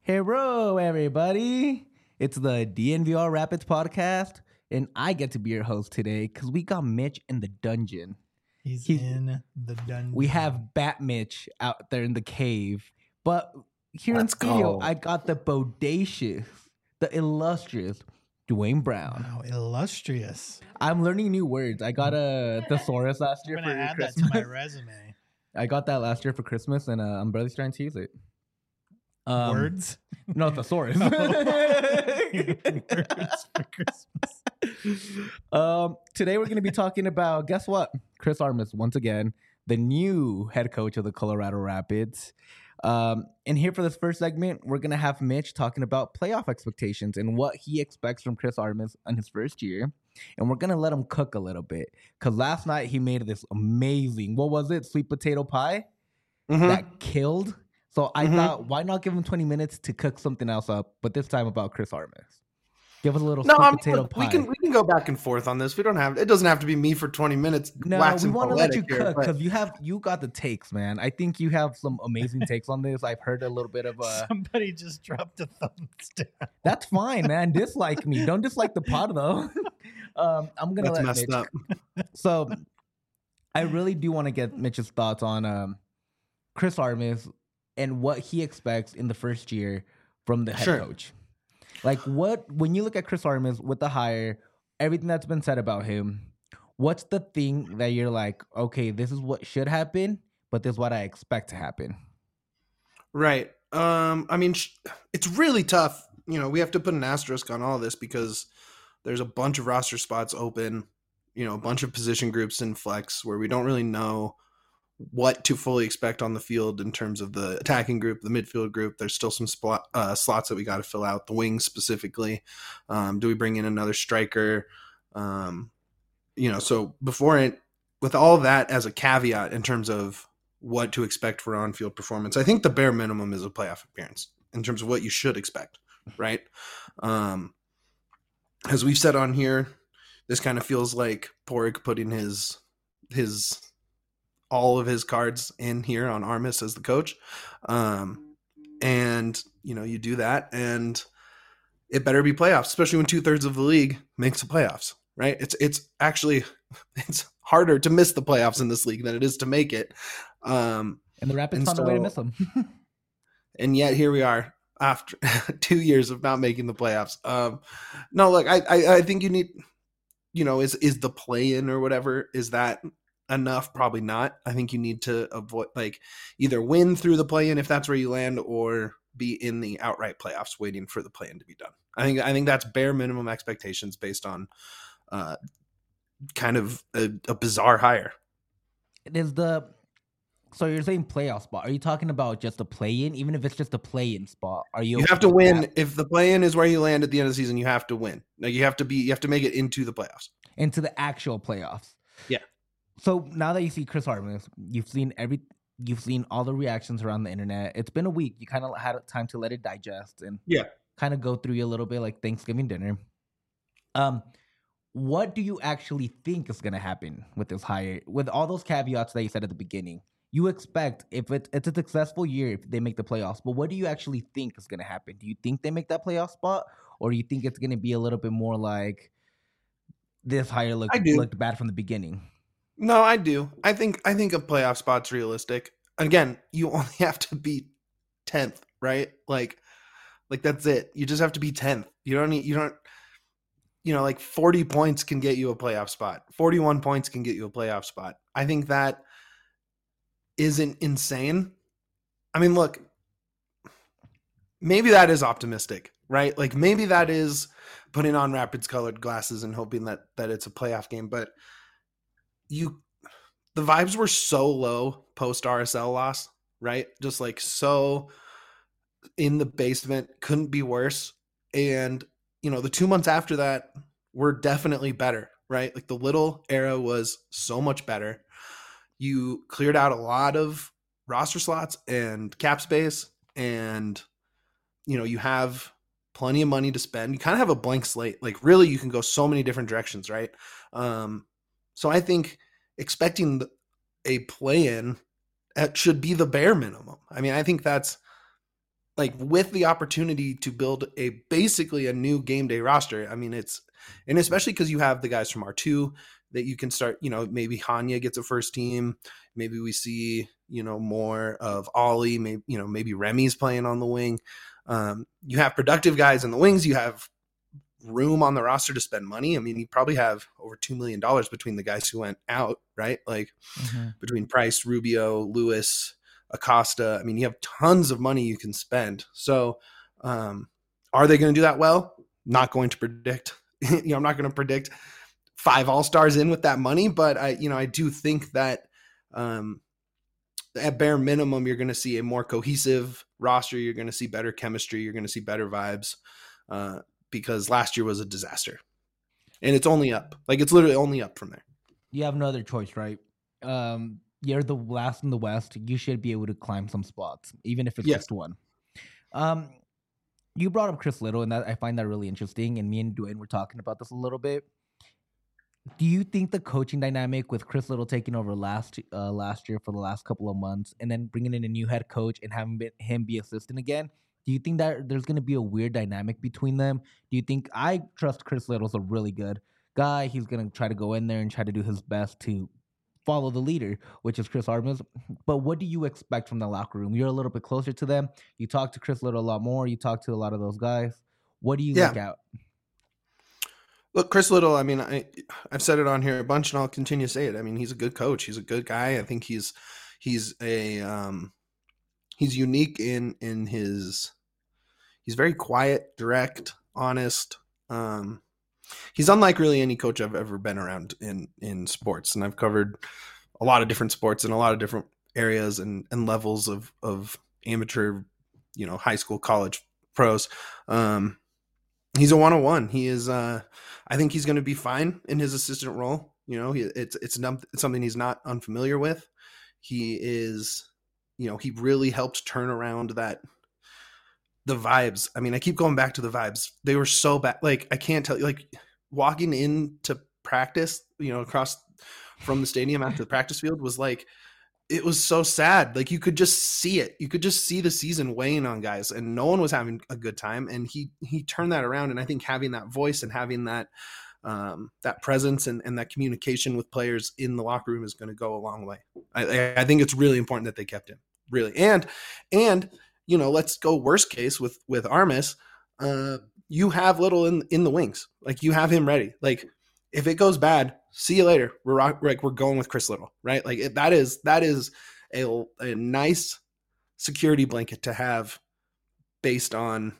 Hello, everybody. It's the DNVR Rapids podcast, and I get to be your host today because we got Mitch in the dungeon. He's in the dungeon. We have Bat Mitch out there in the cave, but here in Let's studio, go. I got the bodacious, the illustrious Dwayne Brown. Wow, illustrious. I'm learning new words. I got a thesaurus last year I'm for gonna add Christmas. that to my resume. I got that last year for Christmas, and I'm barely starting to use it. Words? No, thesaurus. Words for Christmas. Today we're going to be talking about, guess what? Chris Armas, once again, the new head coach of the Colorado Rapids. And here for this first segment, we're going to have Mitch talking about playoff expectations and what he expects from Chris Armas in his first year. And we're going to let him cook a little bit. Because last night he made this amazing, what was it? Sweet potato pie that killed. So I thought, why not give him 20 minutes to cook something else up, but this time about Chris Armas? Give us a little sweet potato look, pie. we can go back and forth on this. We don't have. It doesn't have to be me for 20 minutes. No, we waxing want to let you poetic cook here, because you got the takes, man. I think you have some amazing takes on this. I've heard a little bit of Somebody just dropped a thumbs down. That's fine, man. Dislike me. Don't dislike the pod though. I'm gonna That's let messed Mitch. up. So I really do want to get Mitch's thoughts on Chris Armas and what he expects in the first year from the head Sure. coach. Like when you look at Chris Armas with the hire, everything that's been said about him, what's the thing that you're like, okay, this is what should happen, but this is what I expect to happen? Right. I mean, it's really tough. You know, we have to put an asterisk on all this because there's a bunch of roster spots open. You know, a bunch of position groups in flex where we don't really know what to fully expect on the field in terms of the attacking group, the midfield group. There's still some slots that we got to fill out, the wings specifically. Do we bring in another striker? So with all that as a caveat in terms of what to expect for on-field performance, I think the bare minimum is a playoff appearance in terms of what you should expect, right? As we've said on here, this kind of feels like Porig putting his all of his cards in here on Armas as the coach. And, you do that and it better be playoffs, especially when 2/3 of the league makes the playoffs, right? It's harder to miss the playoffs in this league than it is to make it. And the Rapids found a way to miss them. And yet here we are after 2 years of not making the playoffs. No, look, I think you need, is the play-in or whatever, is that enough? Probably not. I think you need to avoid, either win through the play-in if that's where you land, or be in the outright playoffs waiting for the play-in to be done. I think that's bare minimum expectations based on kind of a bizarre hire. So you're saying playoff spot? Are you talking about just a play-in? Even if it's just a play-in spot, are you? You have to win. That? If the play-in is where you land at the end of the season, you have to win. Like you have to make it into the playoffs. Into the actual playoffs. Yeah. So now that you see Chris Armas, you've seen all the reactions around the internet. It's been a week. You kind of had time to let it digest and kind of go through you a little bit like Thanksgiving dinner. What do you actually think is going to happen with this hire? With all those caveats that you said at the beginning, you expect if it's a successful year if they make the playoffs. But what do you actually think is going to happen? Do you think they make that playoff spot, or do you think it's going to be a little bit more like this hire looked bad from the beginning? No, I do. I think a playoff spot's realistic. Again, you only have to be 10th, right? Like that's it. You just have to be 10th. You don't 40 points can get you a playoff spot. 41 points can get you a playoff spot. I think that isn't insane. I mean, look, maybe that is optimistic, right? Like maybe that is putting on Rapids colored glasses and hoping that it's a playoff game, but the vibes were so low post RSL loss, right? Just like so in the basement, couldn't be worse. And, the 2 months after that were definitely better, right? Like the Little era was so much better. You cleared out a lot of roster slots and cap space, and, you have plenty of money to spend. You kind of have a blank slate. Like really, you can go so many different directions, right? So I think expecting a play-in should be the bare minimum. I mean, I think that's like with the opportunity to build basically a new game day roster. I mean, and especially because you have the guys from R2 that you can start, maybe Hanya gets a first team. Maybe we see, more of Ollie, maybe Remy's playing on the wing. You have productive guys in the wings. You have room on the roster to spend money. I mean, you probably have over $2 million between the guys who went out, right? Like between Price, Rubio, Lewis, Acosta. I mean, you have tons of money you can spend. So are they going to do that well? Not going to predict. I'm not going to predict 5 all-stars in with that money, but I do think that at bare minimum, you're going to see a more cohesive roster. You're going to see better chemistry. You're going to see better vibes because last year was a disaster, and it's only up. Like, it's literally only up from there. You have no other choice, right? You're the last in the West. You should be able to climb some spots, even if it's just one. You brought up Chris Little, and I find that really interesting. And me and Dwayne were talking about this a little bit. Do you think the coaching dynamic with Chris Little taking over last year for the last couple of months, and then bringing in a new head coach and having him be assistant again, do you think that there's going to be a weird dynamic between them? Do you think I trust Chris Little's a really good guy? He's going to try to go in there and try to do his best to follow the leader, which is Chris Armas. But what do you expect from the locker room? You're a little bit closer to them. You talk to Chris Little a lot more. You talk to a lot of those guys. What do you look at? Look, Chris Little, I mean, I've said it on here a bunch, and I'll continue to say it. I mean, he's a good coach. He's a good guy. I think he's unique in his. He's very quiet, direct, honest. He's unlike really any coach I've ever been around in sports, and I've covered a lot of different sports in a lot of different areas and levels of amateur, high school, college, pros. He's a 101. He is. I think he's going to be fine in his assistant role. It's something he's not unfamiliar with. He is. He really helped turn around the vibes. I mean, I keep going back to the vibes. They were so bad. Like, I can't tell you. Like, walking into practice, across from the stadium after the practice field was like. It was so sad. Like, you could just see it. You could just see the season weighing on guys, and no one was having a good time. And he turned that around. And I think having that voice and having that presence and that communication with players in the locker room is going to go a long way. I think it's really important that they kept him, really. And let's go worst case with Armas. You have Little in the wings. Like, you have him ready. Like, if it goes bad, see you later. We're going with Chris Little, right? Like, that is a nice security blanket to have based on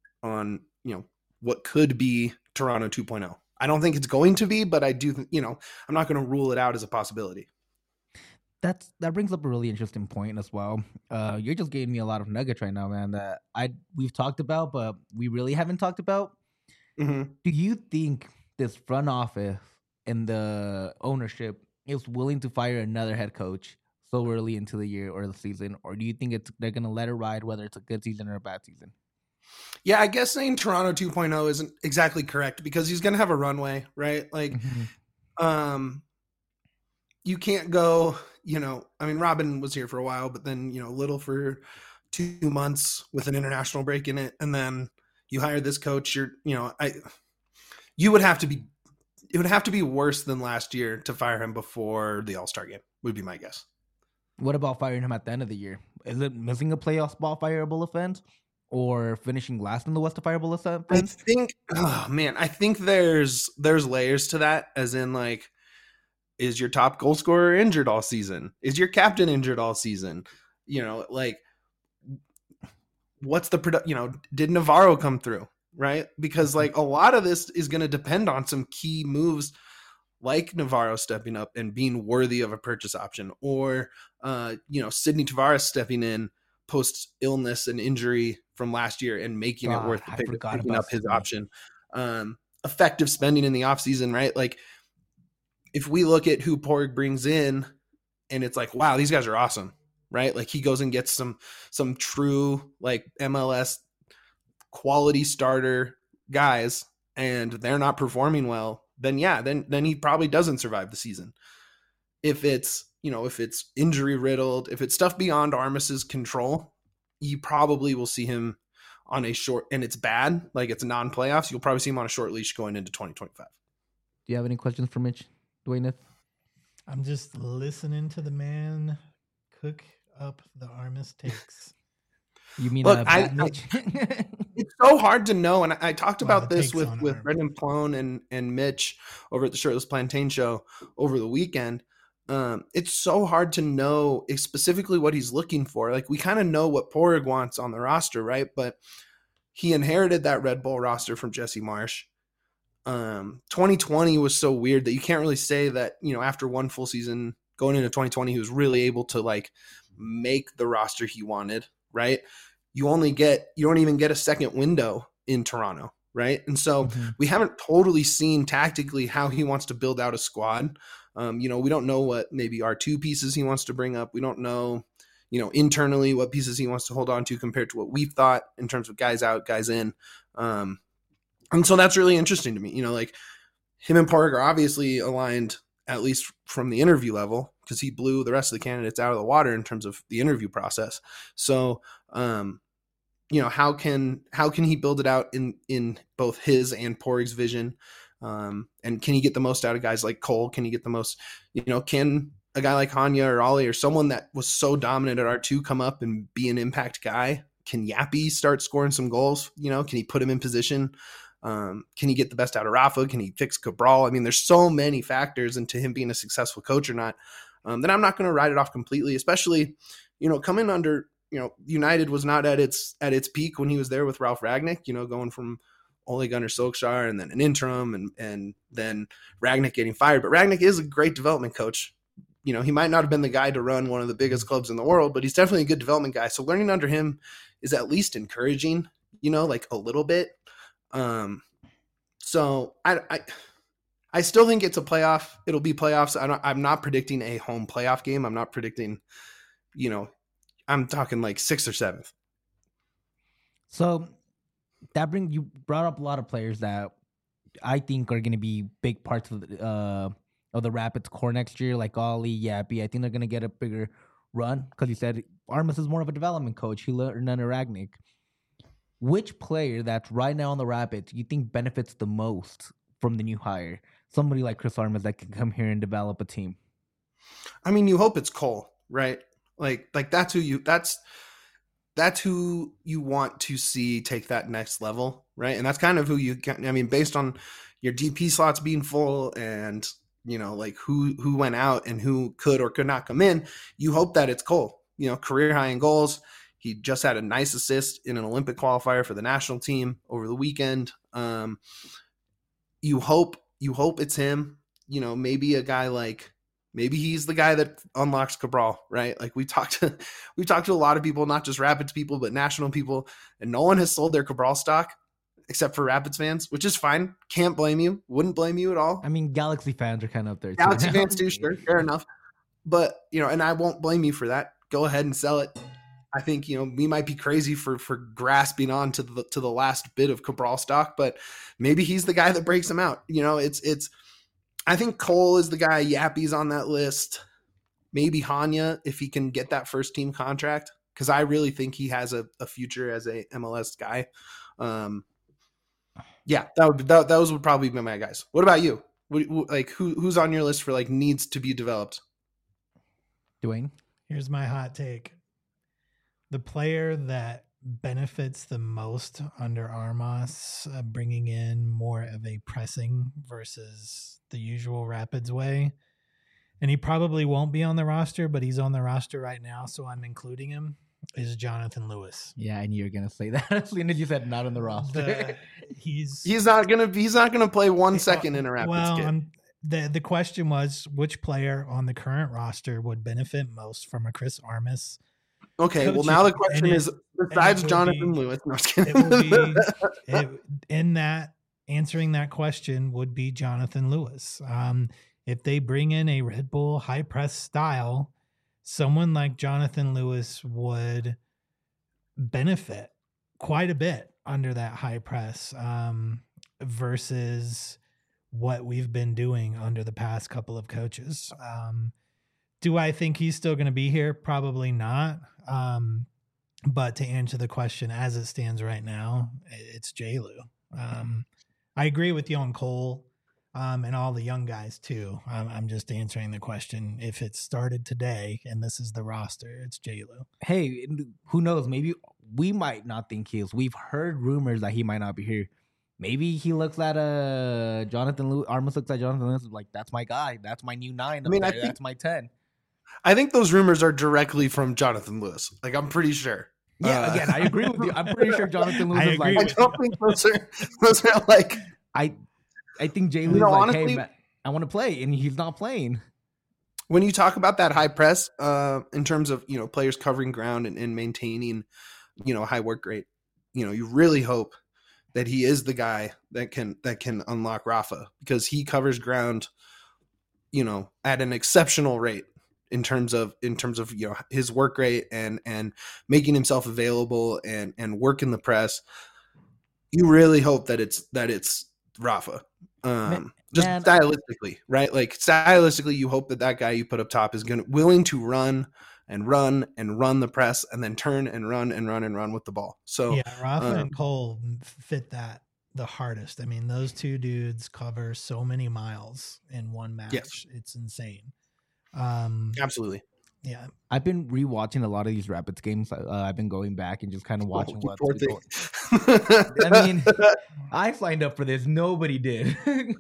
what could be Toronto 2.0. I don't think it's going to be, but I do. I'm not going to rule it out as a possibility. That brings up a really interesting point as well. You're just giving me a lot of nuggets right now, man, that we've talked about, but we really haven't talked about. Mm-hmm. Do you think this front office and the ownership is willing to fire another head coach so early into the year or the season? Or do you think they're going to let it ride, whether it's a good season or a bad season? Yeah, I guess saying Toronto 2.0 isn't exactly correct because he's going to have a runway, right? Like, you can't go, I mean, Robin was here for a while, but then, Little for 2 months with an international break in it. And then you hire this coach, it would have to be worse than last year to fire him before the All-Star game, would be my guess. What about firing him at the end of the year? Is it missing a playoff spot fireable offense, or finishing last in the West a fireable offense? I think there's layers to that, as in, like, is your top goal scorer injured all season? Is your captain injured all season? Like, what's the did Navarro come through? Right? Because, like, a lot of this is going to depend on some key moves like Navarro stepping up and being worthy of a purchase option, or, Sidney Tavares stepping in post illness and injury from last year and making it worth picking up his option. Effective spending in the offseason, right? Like, if we look at who Porg brings in and it's like, wow, these guys are awesome, right? Like, he goes and gets some true, like, MLS quality starter guys, and they're not performing well, then he probably doesn't survive the season. If it's injury riddled, if it's stuff beyond Armas's control, you probably will see him on a short, and it's bad, like it's non-playoffs. You'll probably see him on a short leash going into 2025. Do you have any questions for Mitch, Dwayne? I'm just listening to the man cook up the Armas takes. You mean Look, Mitch? It's so hard to know, and I talked Well, about the this takes with on Armas. Brendan Plone and Mitch over at the Shirtless Plantain show over the weekend. It's so hard to know specifically what he's looking for. Like, we kind of know what Porig wants on the roster, right? But he inherited that Red Bull roster from Jesse Marsh. 2020 was so weird that you can't really say that, you know, after one full season going into 2020, he was really able to like make the roster he wanted, right? You don't even get a second window in Toronto, right? And so we haven't totally seen tactically how he wants to build out a squad. You know, we don't know what maybe R2 pieces he wants to bring up. We don't know, you know, internally what pieces he wants to hold on to compared to what we've thought in terms of guys out, guys in. And so that's really interesting to me. You know, like him and Porig are obviously aligned, at least from the interview level, because he blew the rest of the candidates out of the water in terms of the interview process. So, you know, how can he build it out in both his and Porig's vision? And can he get the most out of guys like Cole? Can he get the most, you know, can a guy like Hanya or Ollie or someone that was so dominant at R2 come up and be an impact guy? Can Yappy start scoring some goals? You know, can he put him in position? Can he get the best out of Rafa? Can he fix Cabral? I mean, there's so many factors into him being a successful coach or not, that I'm not going to write it off completely, especially, you know, coming under, you know, United was not at its peak when he was there with Ralph Ragnick, you know, going from Ole Gunnar Solskjaer and then an interim and then Ragnick getting fired. But Ragnick is a great development coach. You know, he might not have been the guy to run one of the biggest clubs in the world, but he's definitely a good development guy. So learning under him is at least encouraging, you know, like a little bit. So I still think it's a playoff. It'll be playoffs. I'm not predicting a home playoff game. I'm not predicting, you know, I'm talking like 6th or 7th. So you brought up a lot of players that I think are going to be big parts of the Rapids core next year, like Ollie, Yappy. I think they're going to get a bigger run because you said Armas is more of a development coach. He learned under Ragnick. Which player that's right now on the Rapids you think benefits the most from the new hire? Somebody like Chris Armas that can come here and develop a team. I mean, you hope it's Cole, right? Like that's who you want to see take that next level, right? And that's kind of who you can. I mean, based on your DP slots being full and, you know, like who went out and who could or could not come in, you hope that it's Cole. You know, career high in goals. He just had a nice assist in an Olympic qualifier for the national team over the weekend. You hope it's him. You know, maybe a guy like, maybe he's the guy that unlocks Cabral, right? Like we talked to a lot of people, not just Rapids people, but national people, and no one has sold their Cabral stock except for Rapids fans, which is fine. Can't blame you. Wouldn't blame you at all. I mean, Galaxy fans are kind of up there. Galaxy fans too, sure, fair enough. But, you know, and I won't blame you for that. Go ahead and sell it. I think, you know, we might be crazy for grasping on to the last bit of Cabral stock, but maybe he's the guy that breaks him out. You know, I think Cole is the guy. Yappy's on that list. Maybe Hanya, if he can get that first team contract, because I really think he has a future as a MLS guy. Yeah, those would probably be my guys. What about you? Like who's on your list for like needs to be developed? Dwayne? Here's my hot take. The player that benefits the most under Armas, bringing in more of a pressing versus the usual Rapids way. And he probably won't be on the roster, but he's on the roster right now, so I'm including him, is Jonathan Lewis. Yeah, I knew you were going to say that as soon as you said not on the roster. He's not gonna play 1 second in a Rapids game. The question was which player on the current roster would benefit most from a Chris Armas. Okay, well now the question is, besides Jonathan Lewis, no, it will be in that answering that question would be Jonathan Lewis. If they bring in a Red Bull high press style, someone like Jonathan Lewis would benefit quite a bit under that high press versus what we've been doing under the past couple of coaches. Do I think he's still going to be here? Probably not. But to answer the question as it stands right now, it's J-Lu. I agree with you on Cole and all the young guys too. I'm just answering the question. If it started today and this is the roster, it's J-Lu. Hey, who knows? Maybe we might not think he is. We've heard rumors that he might not be here. Maybe he looks at Jonathan Lewis. Armas looks at Jonathan Lewis like, that's my guy. That's my new 9. That's my 10. I think those rumors are directly from Jonathan Lewis. Like, I'm pretty sure. Yeah, again, I agree with you. I'm pretty sure Jonathan Lewis is like. I don't think those are like. I think J-Lu's like, honestly, hey, man, I want to play, and he's not playing. When you talk about that high press, in terms of players covering ground and maintaining, a high work rate, you really hope that he is the guy that can unlock Rafa, because he covers ground, at an exceptional rate in terms of his work rate and making himself available and working the press. You really hope that it's Rafa. Stylistically, right? Like stylistically, you hope that guy you put up top is willing to run the press and then turn and run with the ball. So yeah, Rafa and Cole fit that the hardest. I mean, those two dudes cover so many miles in one match. Yes. It's insane. Absolutely. Yeah, I've been rewatching a lot of these Rapids games. I've been going back and just kind of watching what's going. I mean, I signed up for this. Nobody did.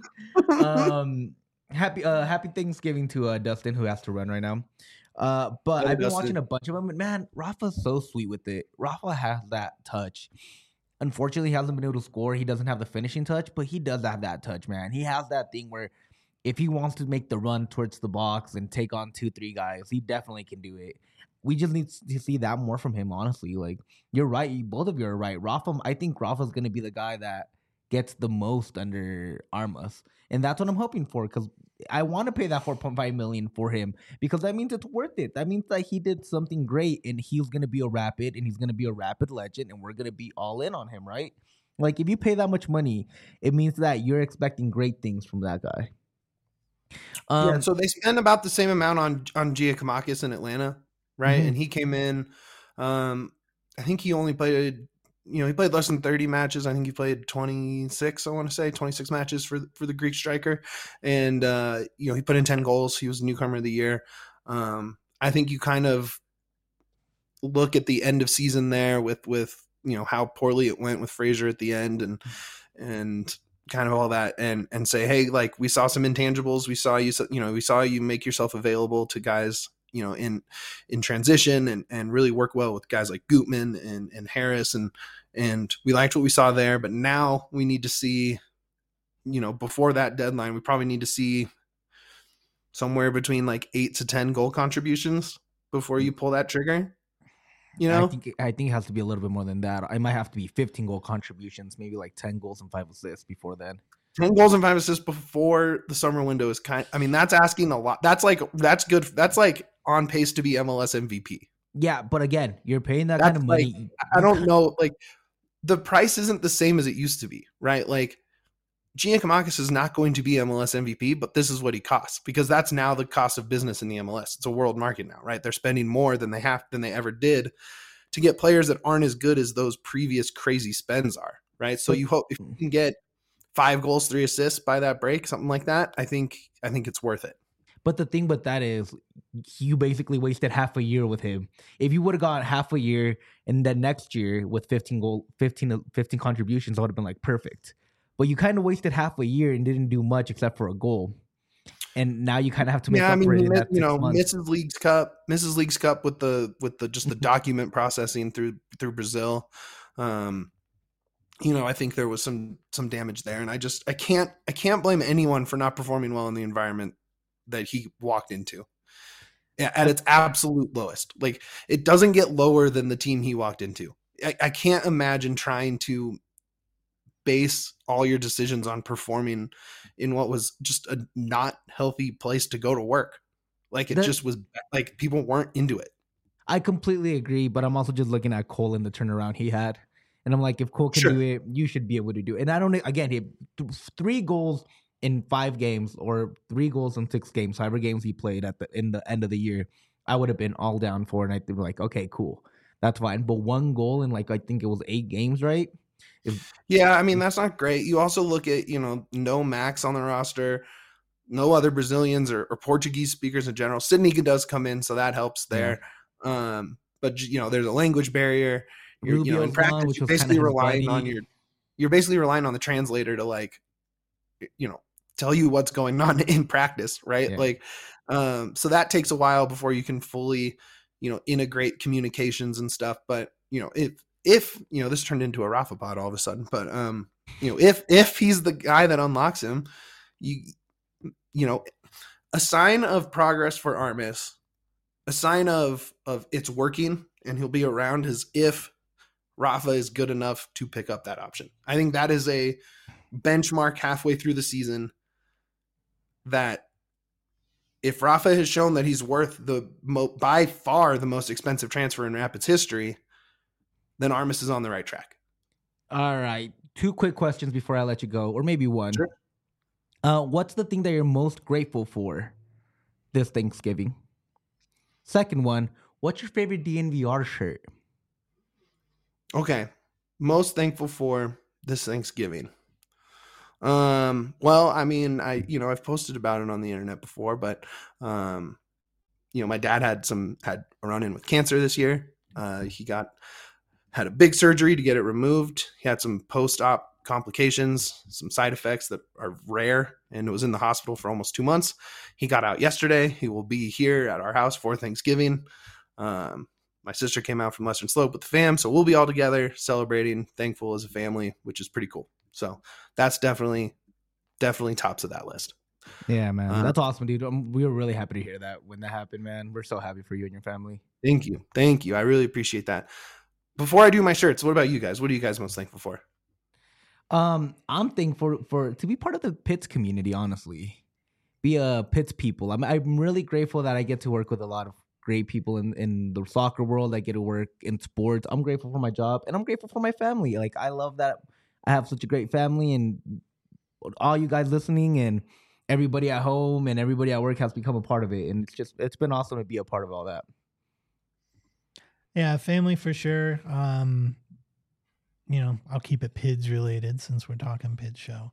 Happy Thanksgiving to Dustin, who has to run right now. But I've been watching a bunch of them. And man, Rafa's so sweet with it. Rafa has that touch. Unfortunately, he hasn't been able to score. He doesn't have the finishing touch, but he does have that touch, man. He has that thing where if he wants to make the run towards the box and take on 2-3 guys, he definitely can do it. We just need to see that more from him, honestly. Like, you're right. Both of you are right. I think Rafa's going to be the guy that gets the most under Armas. And that's what I'm hoping for, because I want to pay that $4.5 million for him, because that means it's worth it. That means that he did something great, and he's going to be a Rapid, and he's going to be a Rapid legend, and we're going to be all in on him, right? Like, if you pay that much money, it means that you're expecting great things from that guy. So they spend about the same amount on Giakoumakis in Atlanta, right? Mm-hmm. And he came in. I think he only played. He played less than 30 matches. I think he played 26. I want to say 26 matches for the Greek striker, and he put in 10 goals. He was newcomer of the year. I think you kind of look at the end of season there with how poorly it went with Fraser at the end and kind of all that and say, hey, like, we saw some intangibles. We saw you make yourself available to guys, in transition and really work well with guys like Gutman and Harris. And we liked what we saw there, but now we need to see, before that deadline, we probably need to see somewhere between like 8 to 10 goal contributions before you pull that trigger. I think it has to be a little bit more than that. I might have to be 15 goal contributions, maybe like 10 goals and 5 assists before then. 10 goals and 5 assists before the summer window is that's asking a lot. That's good. That's like on pace to be MLS MVP. Yeah, but again, you're paying that kind of money. Like, I don't know. Like, the price isn't the same as it used to be, right? Like, Giakoumakis is not going to be MLS MVP, but this is what he costs, because that's now the cost of business in the MLS. It's a world market now, right? They're spending more than they ever did to get players that aren't as good as those previous crazy spends are, right? So you hope if you can get 5 goals, 3 assists by that break, something like that, I think it's worth it. But the thing with that is, you basically wasted half a year with him. If you would have got half a year and then next year with 15 contributions, I would have been like perfect. But you kind of wasted half a year and didn't do much except for a goal. And now you kind of have to make up for it. Mrs. Leagues Cup with the just the document processing through Brazil. I think there was some damage there, and I can't blame anyone for not performing well in the environment that he walked into at its absolute lowest. Like, it doesn't get lower than the team he walked into. I can't imagine trying to base all your decisions on performing in what was just a not healthy place to go to work. Like, it just was like people weren't into it. I completely agree, but I'm also just looking at Cole and the turnaround he had. And I'm like, if Cole can do it, you should be able to do it. And I don't, again, he had 3 goals in 5 games or 3 goals in 6 games, however games he played in the end of the year. I would have been all down for, and I think like, okay, cool. that's fine. But 1 goal in like I think it was 8 games, right? Yeah, I mean that's not great. You also look at no Max on the roster, no other Brazilians or Portuguese speakers in general. Sydney does come in, so that helps there. Yeah. But there's a language barrier. In practice, which you're was basically kinda his relying on buddy. you're basically relying on the translator to like, tell you what's going on in practice, right? Yeah. Like, so that takes a while before you can fully, integrate communications and stuff. But if this turned into a Rafa pod all of a sudden, but if he's the guy that unlocks him, a sign of progress for Armas, a sign of it's working and he'll be around is if Rafa is good enough to pick up that option. I think that is a benchmark halfway through the season that if Rafa has shown that he's worth by far the most expensive transfer in Rapids history, then Armas is on the right track. All right. 2 quick questions before I let you go, or maybe 1. Sure. What's the thing that you're most grateful for this Thanksgiving? Second one, what's your favorite DNVR shirt? Okay. Most thankful for this Thanksgiving. Well, I mean, I've posted about it on the internet before, but, my dad had a run in with cancer this year. He had a big surgery to get it removed. He had some post-op complications, some side effects that are rare, and was in the hospital for almost 2 months. He got out yesterday. He will be here at our house for Thanksgiving. My sister came out from Western Slope with the fam, so we'll be all together celebrating, thankful as a family, which is pretty cool. So that's definitely tops of that list. Yeah, man. That's awesome, dude. We were really happy to hear that when that happened, man. We're so happy for you and your family. Thank you. I really appreciate that. Before I do my shirts, what about you guys? What are you guys most thankful for? I'm thankful for to be part of the Pitts community, honestly. Be a Pitts people. I'm really grateful that I get to work with a lot of great people in the soccer world. I get to work in sports. I'm grateful for my job, and I'm grateful for my family. Like, I love that I have such a great family, and all you guys listening and everybody at home and everybody at work has become a part of it. And it's been awesome to be a part of all that. Yeah, family for sure. I'll keep it PIDS related since we're talking PIDS show.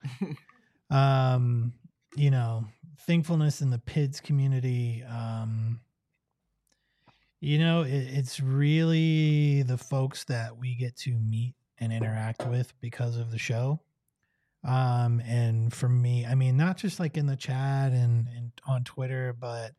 Thankfulness in the PIDS community. It's really the folks that we get to meet and interact with because of the show. And for me, I mean, not just like in the chat and on Twitter, but,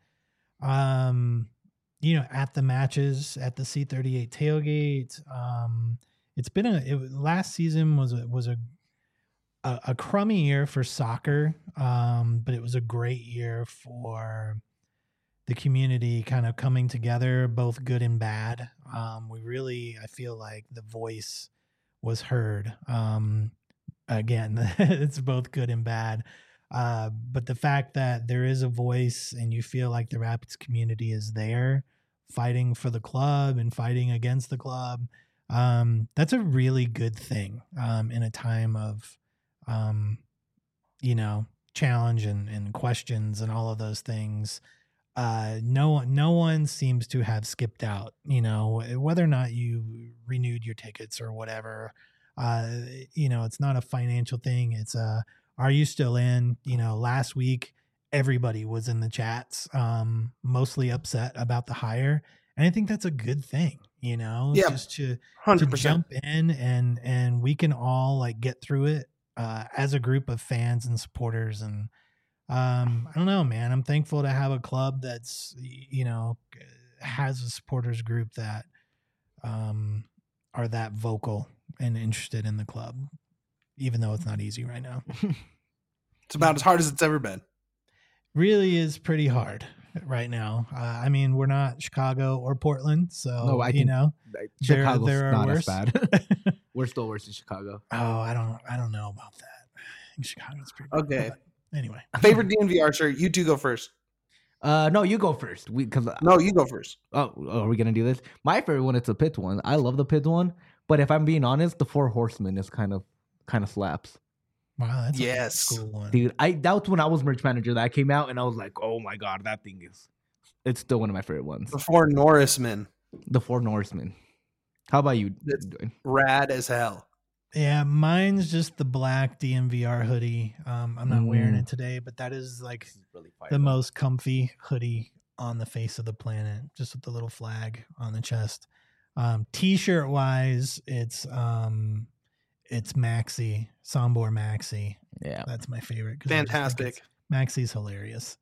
at the matches, at the C38 tailgate. It's been last season was a crummy year for soccer. But it was a great year for the community kind of coming together, both good and bad. I feel like the voice was heard. Again, it's both good and bad. But the fact that there is a voice and you feel like the Rapids community is there fighting for the club and fighting against the club, that's a really good thing in a time of, challenge and questions and all of those things. No one seems to have skipped out, whether or not you renewed your tickets or whatever. It's not a financial thing. It's are you still in? Last week, everybody was in the chats, mostly upset about the hire. And I think that's a good thing, just to jump in and we can all like get through it as a group of fans and supporters. And I don't know, man, I'm thankful to have a club that's, has a supporters group that are that vocal and interested in the club, even though it's not easy right now. It's about as hard as it's ever been. Really is pretty hard right now. I mean, we're not Chicago or Portland, so No, I think Chicago's there not are as worse. bad. We're still worse than Chicago. Oh, I don't know about that. I think Chicago's pretty bad. Okay. But anyway, favorite DNVR shirt. You two go first. No, you go first. No, you go first. Oh, are we gonna do this? My favorite one, it's a Pitts one. I love the Pitts one, but if I'm being honest, the Four Horsemen is kind of slaps. Wow, that's yes, a cool one, dude. That was when I was merch manager that came out, and I was like, oh my god, it's still one of my favorite ones. The Four Norrismen. The Four Norsemen. How about you? It's Dwayne? rad as hell. Yeah, mine's just the black DNVR hoodie. I'm not wearing it today, but that is like Really the most comfy hoodie on the face of the planet, just with the little flag on the chest. T-shirt wise, it's Maxi, Sombor Maxi. Yeah. That's my favorite. 'cause Fantastic. Maxi's hilarious.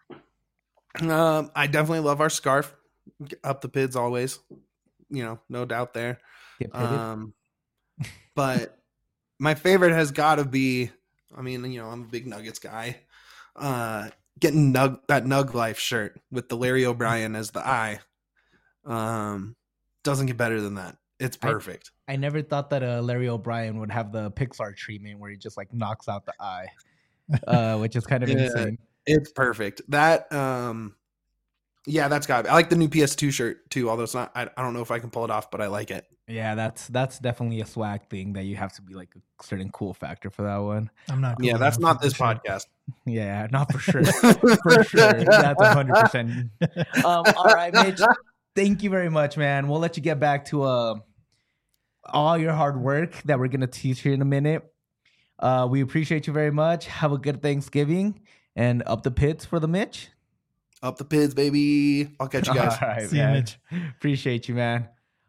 I definitely love our scarf. Up the pids always. No doubt there. Get pitted. But my favorite has got to be, I'm a big Nuggets guy. Getting that Nug Life shirt with the Larry O'Brien as the eye. Doesn't get better than that. It's perfect. I never thought that Larry O'Brien would have the Pixar treatment where he just like knocks out the eye, which is kind of insane. It's perfect. That that's got. I like the new PS2 shirt too. Although it's not. I don't know if I can pull it off, but I like it. Yeah, that's definitely a swag thing that you have to be like a certain cool factor for that one. I'm not. Cool that's not this podcast. Yeah, not for sure. For sure, that's 100%. All right, Mitch. Thank you very much, man. We'll let you get back to all your hard work that we're gonna teach here in a minute. We appreciate you very much. Have a good Thanksgiving and up the pits for the Mitch. Up the pids, baby. I'll catch you guys. All right, See you, man. Mitch. Appreciate you, man.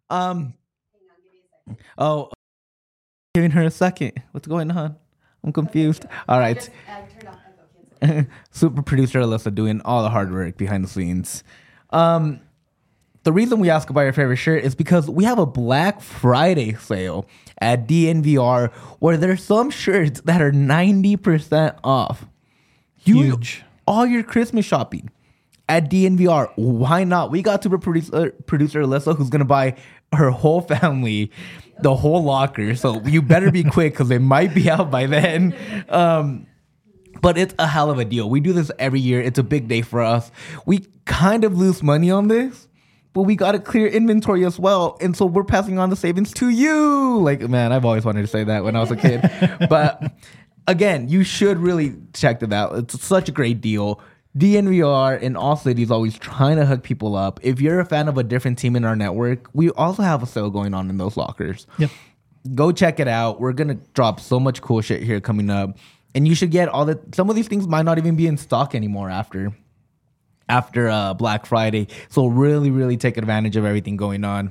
Oh, giving her a second. What's going on? I'm confused. All right. Turned off echo cancel. Super producer Alyssa doing all the hard work behind the scenes. The reason we ask about your favorite shirt is because we have a Black Friday sale at DNVR where there's some shirts that are 90% off. Huge. All your Christmas shopping at DNVR. Why not? We got super producer Alyssa who's going to buy her whole family the whole locker. So you better be quick because it might be out by then. But it's a hell of a deal. We do this every year. It's a big day for us. We kind of lose money on this, but we got to clear inventory as well. And so we're passing on the savings to you. Like, man, I've always wanted to say that when I was a kid. But again, you should really check that out. It's such a great deal. DNVR in all cities always trying to hook people up. If you're a fan of a different team in our network, we also have a sale going on in those lockers. Yep. Go check it out. We're going to drop so much cool shit here coming up. And you should get some of these things might not even be in stock anymore after Black Friday. So really, really take advantage of everything going on.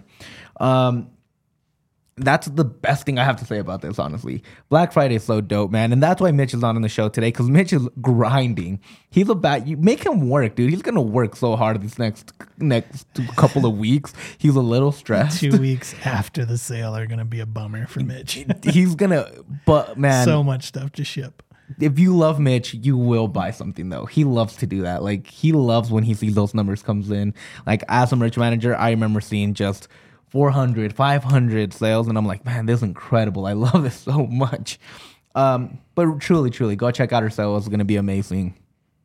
That's the best thing I have to say about this, honestly. Black Friday is so dope, man. And that's why Mitch is not on the show today, because Mitch is grinding. He's you make him work, dude. He's going to work so hard these next couple of weeks. He's a little stressed. 2 weeks after the sale are going to be a bummer for Mitch. He's going to, but man. So much stuff to ship. If you love Mitch, you will buy something, though. He loves to do that. Like, he loves when he sees those numbers comes in. Like, as a merch manager, I remember seeing just 400, 500 sales, and I'm like, man, this is incredible. I love this so much. But truly, go check out our sale. It's going to be amazing.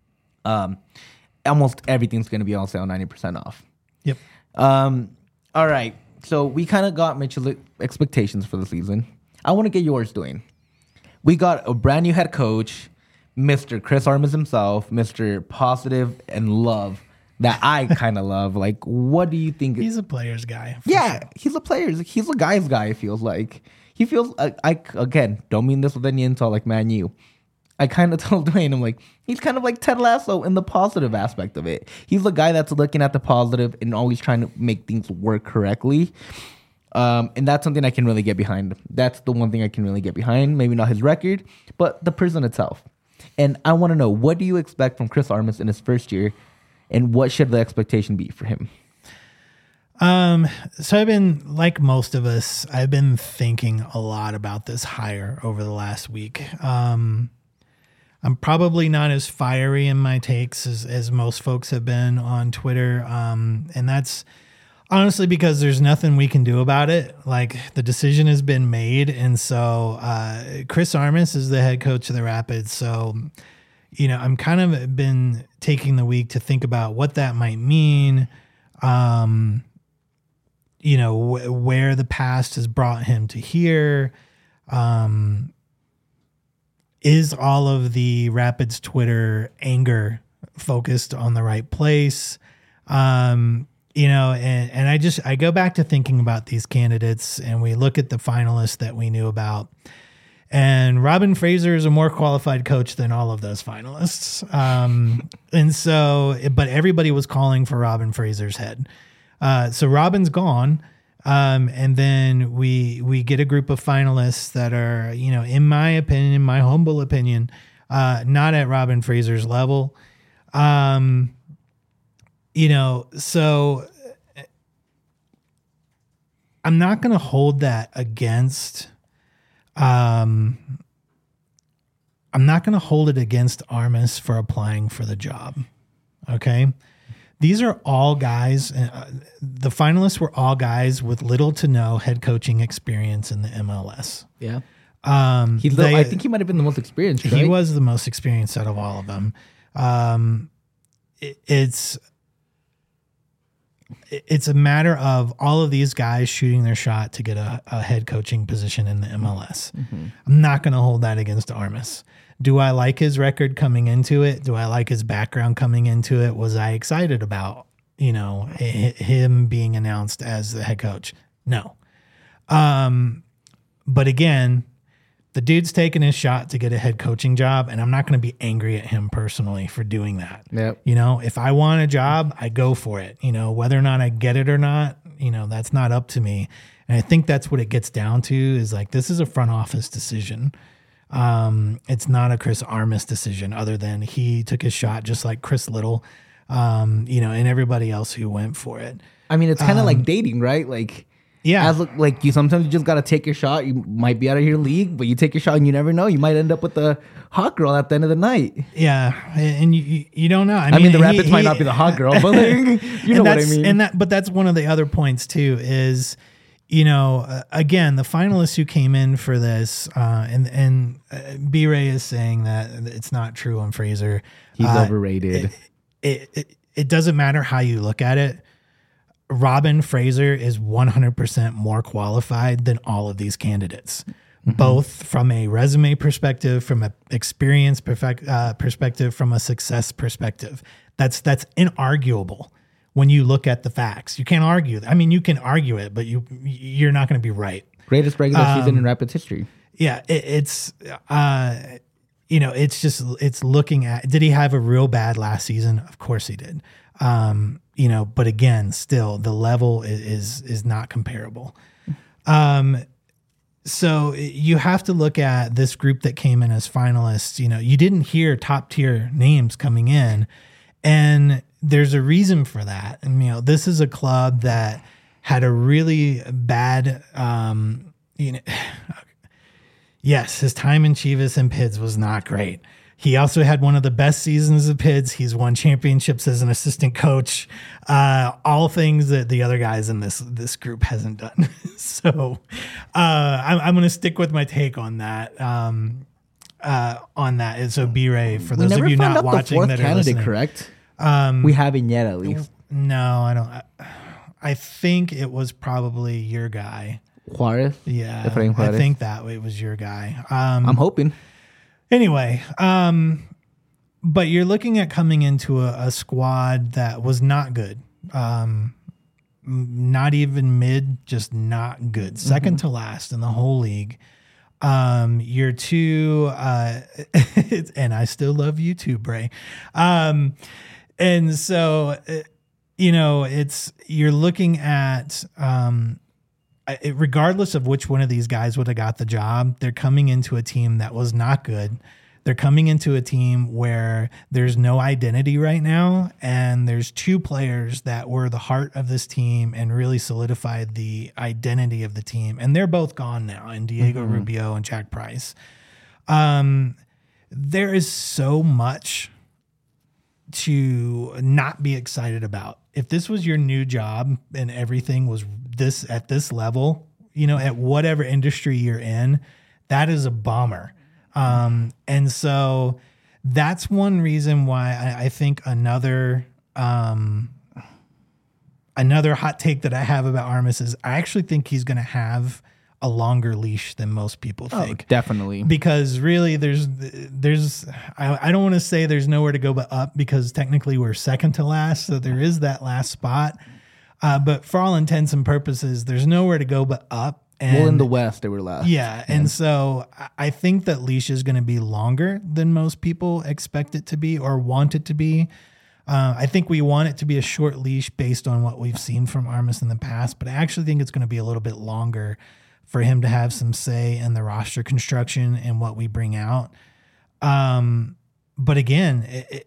Almost everything's going to be on sale 90% off. Yep. All right. So we kind of got Mitch's expectations for the season. I want to get yours, Dwayne. We got a brand new head coach, Mr. Chris Armas himself, Mr. Positive and Love, that I kind of love. Like, what do you think? He's a player's guy. Yeah, sure. He's a guy's guy, it feels like. He feels, again, don't mean this with any insult like Man U. I kind of told Dwayne, I'm like, he's kind of like Ted Lasso in the positive aspect of it. He's a guy that's looking at the positive and always trying to make things work correctly. And that's something I can really get behind. That's the one thing I can really get behind. Maybe not his record, but the person itself. And I want to know, what do you expect from Chris Armas in his first year, and what should the expectation be for him? So I've been, like most of us, I've been thinking a lot about this hire over the last week. I'm probably not as fiery in my takes as most folks have been on Twitter. And that's honestly because there's nothing we can do about it. Like, the decision has been made. And so Chris Armas is the head coach of the Rapids. So, I'm kind of been taking the week to think about what that might mean. Where the past has brought him to here. Is all of the Rapids Twitter anger focused on the right place? and I go back to thinking about these candidates, and we look at the finalists that we knew about. And Robin Fraser is a more qualified coach than all of those finalists. And so, but everybody was calling for Robin Fraser's head. So Robin's gone. And then we get a group of finalists that are, in my opinion, in my humble opinion, not at Robin Fraser's level. So I'm not going to hold that against, I'm not going to hold it against Armas for applying for the job. Okay. These are all guys. The finalists were all guys with little to no head coaching experience in the MLS. Yeah. I think he might have been the most experienced. Right? He was the most experienced out of all of them. It's a matter of all of these guys shooting their shot to get a head coaching position in the MLS. Mm-hmm. I'm not going to hold that against Armas. Do I like his record coming into it? Do I like his background coming into it? Was I excited about, him being announced as the head coach? No. But again, the dude's taking his shot to get a head coaching job, and I'm not going to be angry at him personally for doing that. Yep. If I want a job, I go for it. Whether or not I get it or not, that's not up to me. And I think that's what it gets down to is like, this is a front office decision. It's not a Chris Armas decision, other than he took his shot just like Chris Little, and everybody else who went for it. I mean, it's kind of like dating, right? Like, yeah, you sometimes you just got to take your shot. You might be out of your league, but you take your shot and you never know. You might end up with the hot girl at the end of the night. Yeah. And you don't know. I mean the Rapids might not be the hot girl, but like, you know what I mean? But that's one of the other points too, is, again, the finalists who came in for this, and B-Ray is saying that it's not true on Fraser. He's overrated. It doesn't matter how you look at it. Robin Fraser is 100% more qualified than all of these candidates, both from a resume perspective, from an experience perspective, from a success perspective. That's inarguable. When you look at the facts, you can't argue. I mean, you can argue it, but you're not going to be right. Greatest regular season in Rapids history. Yeah, it's looking at, did he have a real bad last season? Of course he did. But again, still the level is not comparable. So you have to look at this group that came in as finalists. You didn't hear top tier names coming in, and there's a reason for that. And, this is a club that had a really bad, yes, his time in Chivas and Pids was not great. He also had one of the best seasons of Pids. He's won championships as an assistant coach, all things that the other guys in this group hasn't done. So I'm going to stick with my take on that. And so B-Ray, for those of you not watching that are listening, correct? We haven't yet, at least. No, I don't. I think it was probably your guy. Juarez? Yeah, Juarez. I think that it was your guy. I'm hoping. Anyway, but you're looking at coming into a squad that was not good. Not even mid, just not good. Second to last in the whole league. You're two, and I still love you too, Bray. And so, you're looking at, regardless of which one of these guys would have got the job, they're coming into a team that was not good. They're coming into a team where there's no identity right now, and there's two players that were the heart of this team and really solidified the identity of the team, and they're both gone now, and Diego Rubio and Jack Price. There is so much to not be excited about. If this was your new job and everything was this at this level, at whatever industry you're in, that is a bummer. And so that's one reason why I think another hot take that I have about Armas is I actually think he's going to have a longer leash than most people think. Definitely. Because really I don't want to say there's nowhere to go but up, because technically we're second to last. So there is that last spot. But for all intents and purposes, there's nowhere to go but up. And Well, in the West, they were last. yeah, and so I think that leash is going to be longer than most people expect it to be or want it to be. I think we want it to be a short leash based on what we've seen from Armas in the past, but I actually think it's going to be a little bit longer for him to have some say in the roster construction and what we bring out. But again,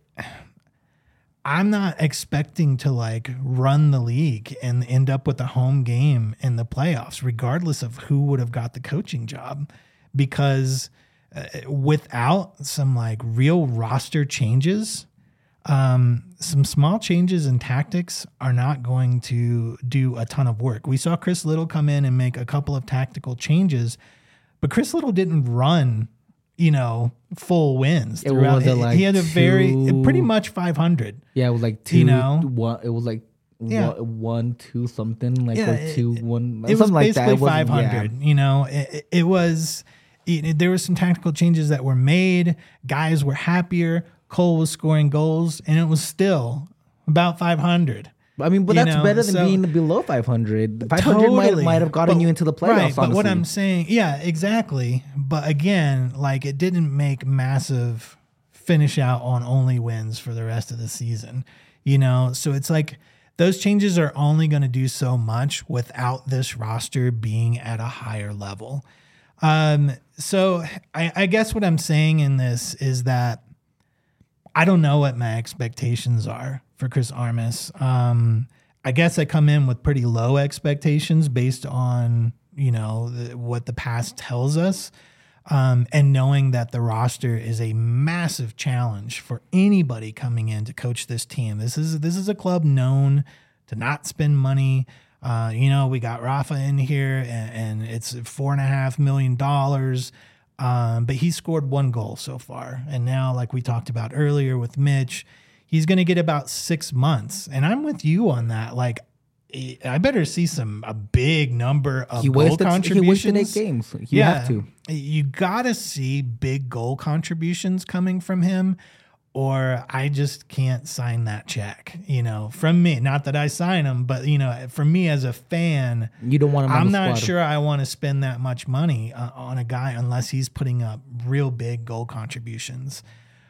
I'm not expecting to like run the league and end up with a home game in the playoffs, regardless of who would have got the coaching job, because without some like real roster changes, some small changes in tactics are not going to do a ton of work. We saw Chris Little come in and make a couple of tactical changes, but Chris Little didn't run, full wins throughout. He had a pretty much 500. Yeah, it was like two. One, it was like 1, 2 something like or 2, 1. It was basically like that. 500. It was. There were some tactical changes that were made. Guys were happier. Cole was scoring goals, and it was still about 500. I mean, but that's better than being below 500. 500 might have gotten you into the playoffs. Right, but what I'm saying, yeah, exactly. But again, like it didn't make massive finish out on only wins for the rest of the season. So it's like those changes are only going to do so much without this roster being at a higher level. So I guess what I'm saying in this is that I don't know what my expectations are for Chris Armas. I guess I come in with pretty low expectations based on, what the past tells us. And knowing that the roster is a massive challenge for anybody coming in to coach this team. This is a club known to not spend money. We got Rafa in here and it's $4.5 million. But he scored 1 goal so far. And now, like we talked about earlier with Mitch, he's going to get about 6 months. And I'm with you on that. Like, I better see a big number of goal contributions. He wasted 8 games. You have to. You got to see big goal contributions coming from him, or I just can't sign that check, from me. Not that I sign them, but, for me as a fan, you don't want him I'm not sure I want to spend that much money on a guy unless he's putting up real big goal contributions.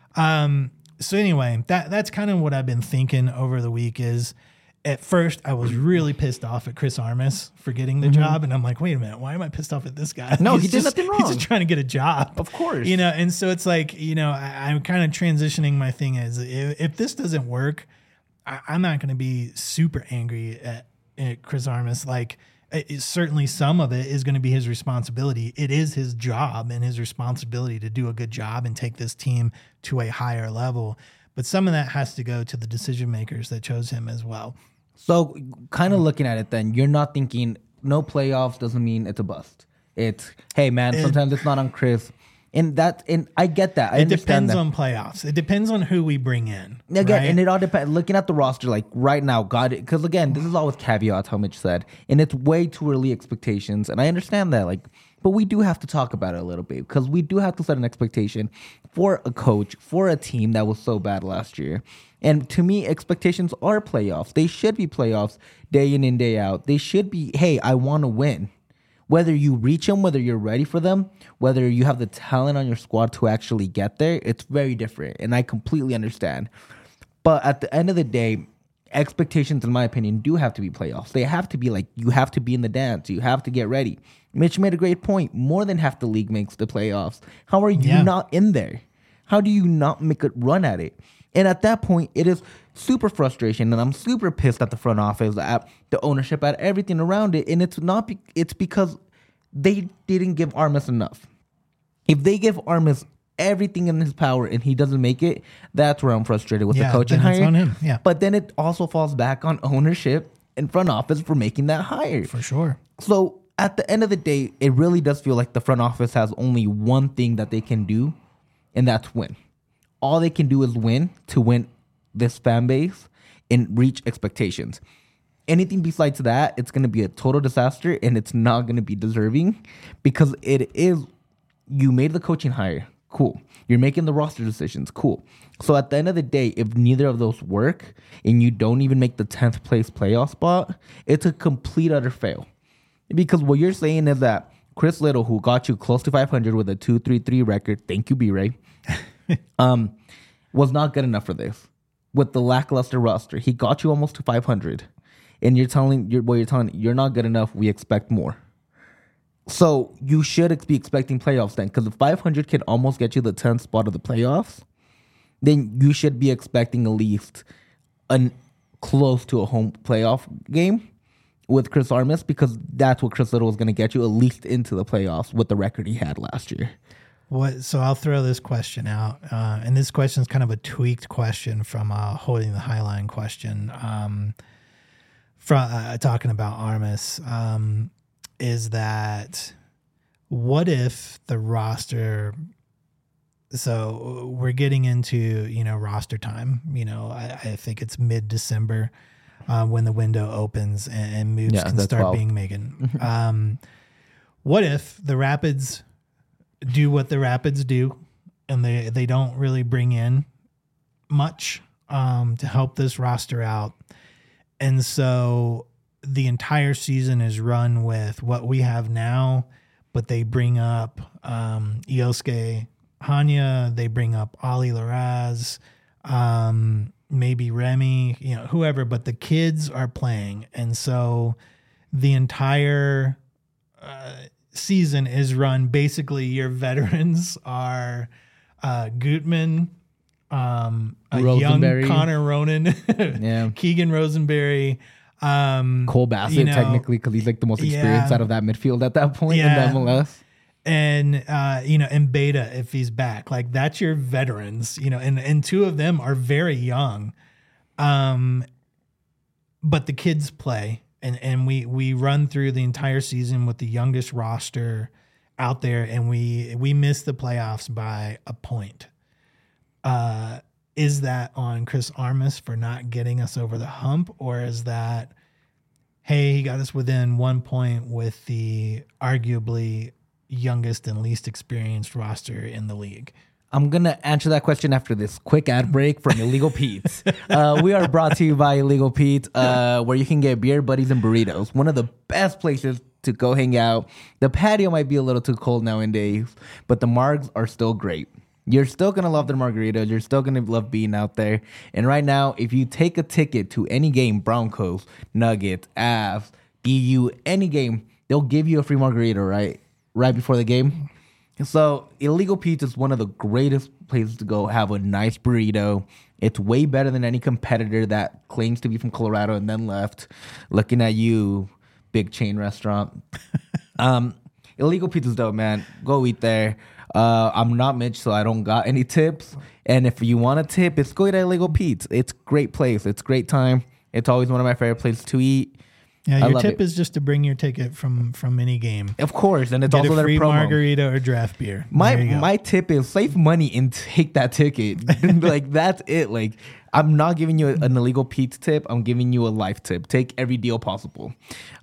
So anyway, that's kind of what I've been thinking over the week is, at first, I was really pissed off at Chris Armas for getting the job. And I'm like, wait a minute, why am I pissed off at this guy? No, he did nothing wrong. He's just trying to get a job. Of course. And so it's like, I'm kind of transitioning my thing as if this doesn't work, I'm not going to be super angry at Chris Armas. Like, certainly some of it is going to be his responsibility. It is his job and his responsibility to do a good job and take this team to a higher level. But some of that has to go to the decision makers that chose him as well. So kind of looking at it then, you're not thinking no playoffs doesn't mean it's a bust. It's, hey, man, sometimes it's not on Chris. And I get that. It depends on playoffs. It depends on who we bring in. Again, right? And it all depends. Looking at the roster, like right now, because again, this is all with caveats, how Mitch said. And it's way too early expectations. And I understand that. But we do have to talk about it a little bit because we do have to set an expectation for a coach, for a team that was so bad last year. And to me, expectations are playoffs. They should be playoffs day in and day out. They should be, hey, I want to win. Whether you reach them, whether you're ready for them, whether you have the talent on your squad to actually get there, it's very different. And I completely understand. But at the end of the day, expectations, in my opinion, do have to be playoffs. They have to be like, you have to be in the dance. You have to get ready. Mitch made a great point. More than half the league makes the playoffs. How are you not in there? How do you not make a run at it? And at that point, it is super frustration, and I'm super pissed at the front office, at the ownership, at everything around it. And it's because they didn't give Armas enough. If they give Armas everything in his power and he doesn't make it, that's where I'm frustrated with the coaching hire. It's on him. Yeah. But then it also falls back on ownership and front office for making that hire. For sure. So at the end of the day, it really does feel like the front office has only one thing that they can do, and that's win. All they can do is win to win this fan base and reach expectations. Anything besides that, it's going to be a total disaster, and it's not going to be deserving because it is, you made the coaching hire. Cool. You're making the roster decisions. Cool. So at the end of the day, if neither of those work and you don't even make the 10th place playoff spot, it's a complete utter fail. Because what you're saying is that Chris Little, who got you close to 500 with a 2.33 record, thank you, B-Ray, was not good enough for this. With the lackluster roster, he got you almost to 500. And you're telling you're not good enough. We expect more. So you should be expecting playoffs then, because if 500 can almost get you the 10th spot of the playoffs, then you should be expecting at least close to a home playoff game with Chris Armas, because that's what Chris Little was going to get you at least into the playoffs with the record he had last year. So I'll throw this question out, and this question is kind of a tweaked question from Holding the Highline question, from talking about Armas. Is that what if the roster? So we're getting into roster time. I think it's mid-December when the window opens and moves can start 12. being made. What if the Rapids do what the Rapids do, and they don't really bring in much to help this roster out, and so the entire season is run with what we have now, but they bring up Iosuke Hanya, they bring up Ali Laraz, maybe Remy, whoever, but the kids are playing. And so the entire season is run, basically your veterans are Gutman, a young Connor Ronan, Keegan Rosenberry, Cole Bassett, technically, because he's like the most experienced out of that midfield at that point in the MLS. And and Beta, if he's back, like that's your veterans, and two of them are very young, but the kids play, and we run through the entire season with the youngest roster out there, and we miss the playoffs by a point. Is that on Chris Armas for not getting us over the hump, or is that, hey, he got us within 1 point with the arguably youngest and least experienced roster in the league? I'm going to answer that question after this quick ad break from Illegal Pete's. We are brought to you by Illegal Pete's, where you can get beer, buddies, and burritos. One of the best places to go hang out. The patio might be a little too cold nowadays, but the margs are still great. You're still going to love the margaritas. You're still going to love being out there. And right now, if you take a ticket to any game, Broncos, Nuggets, Avs, BU, any game, they'll give you a free margarita, right before the game. So Illegal Pete's is one of the greatest places to go have a nice burrito. It's way better than any competitor that claims to be from Colorado and then left. Looking at you, big chain restaurant. Illegal Pete's is dope, man. Go eat there. I'm not Mitch, so I don't got any tips. And if you want a tip, it's go to Illegal Pete's. It's a great place. It's a great time. It's always one of my favorite places to eat. Yeah, your tip is just to bring your ticket from any game. Of course, and it's Get also a their free promo. margarita or draft beer. My tip is save money and take that ticket. Like that's it. Like I'm not giving you an Illegal Pete's tip. I'm giving you a life tip. Take every deal possible.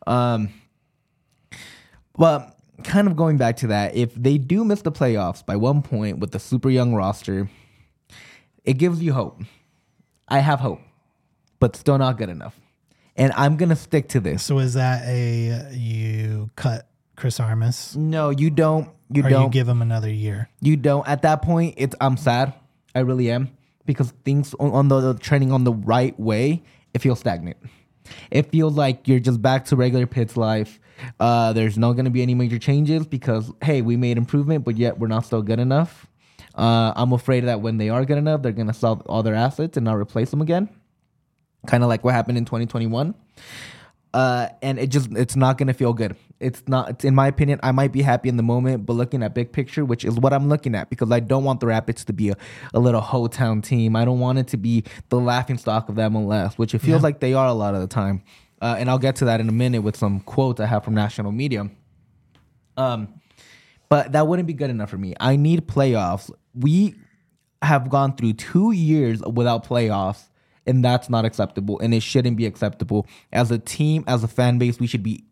But kind of going back to that, if they do miss the playoffs by 1 point with the super young roster, it gives you hope. I have hope, but still not good enough. And I'm going to stick to this. So is that you cut Chris Armas? No, you don't. You or don't. You give him another year? You don't. At that point, I'm sad. I really am. Because things on the trending on the right way, it feels stagnant. It feels like you're just back to regular Pitt's life. There's not going to be any major changes because, hey, we made improvement, but yet we're not still good enough. I'm afraid that when they are good enough, they're going to sell all their assets and not replace them again. Kind of like what happened in 2021. And it's not going to feel good. It's in my opinion, I might be happy in the moment, but looking at big picture, which is what I'm looking at, because I don't want the Rapids to be a little ho-town team. I don't want it to be the laughing stock of the MLS, which it feels like they are a lot of the time. And I'll get to that in a minute with some quotes I have from national media. But that wouldn't be good enough for me. I need playoffs. We have gone through 2 years without playoffs, and that's not acceptable, and it shouldn't be acceptable. As a team, as a fan base, we should be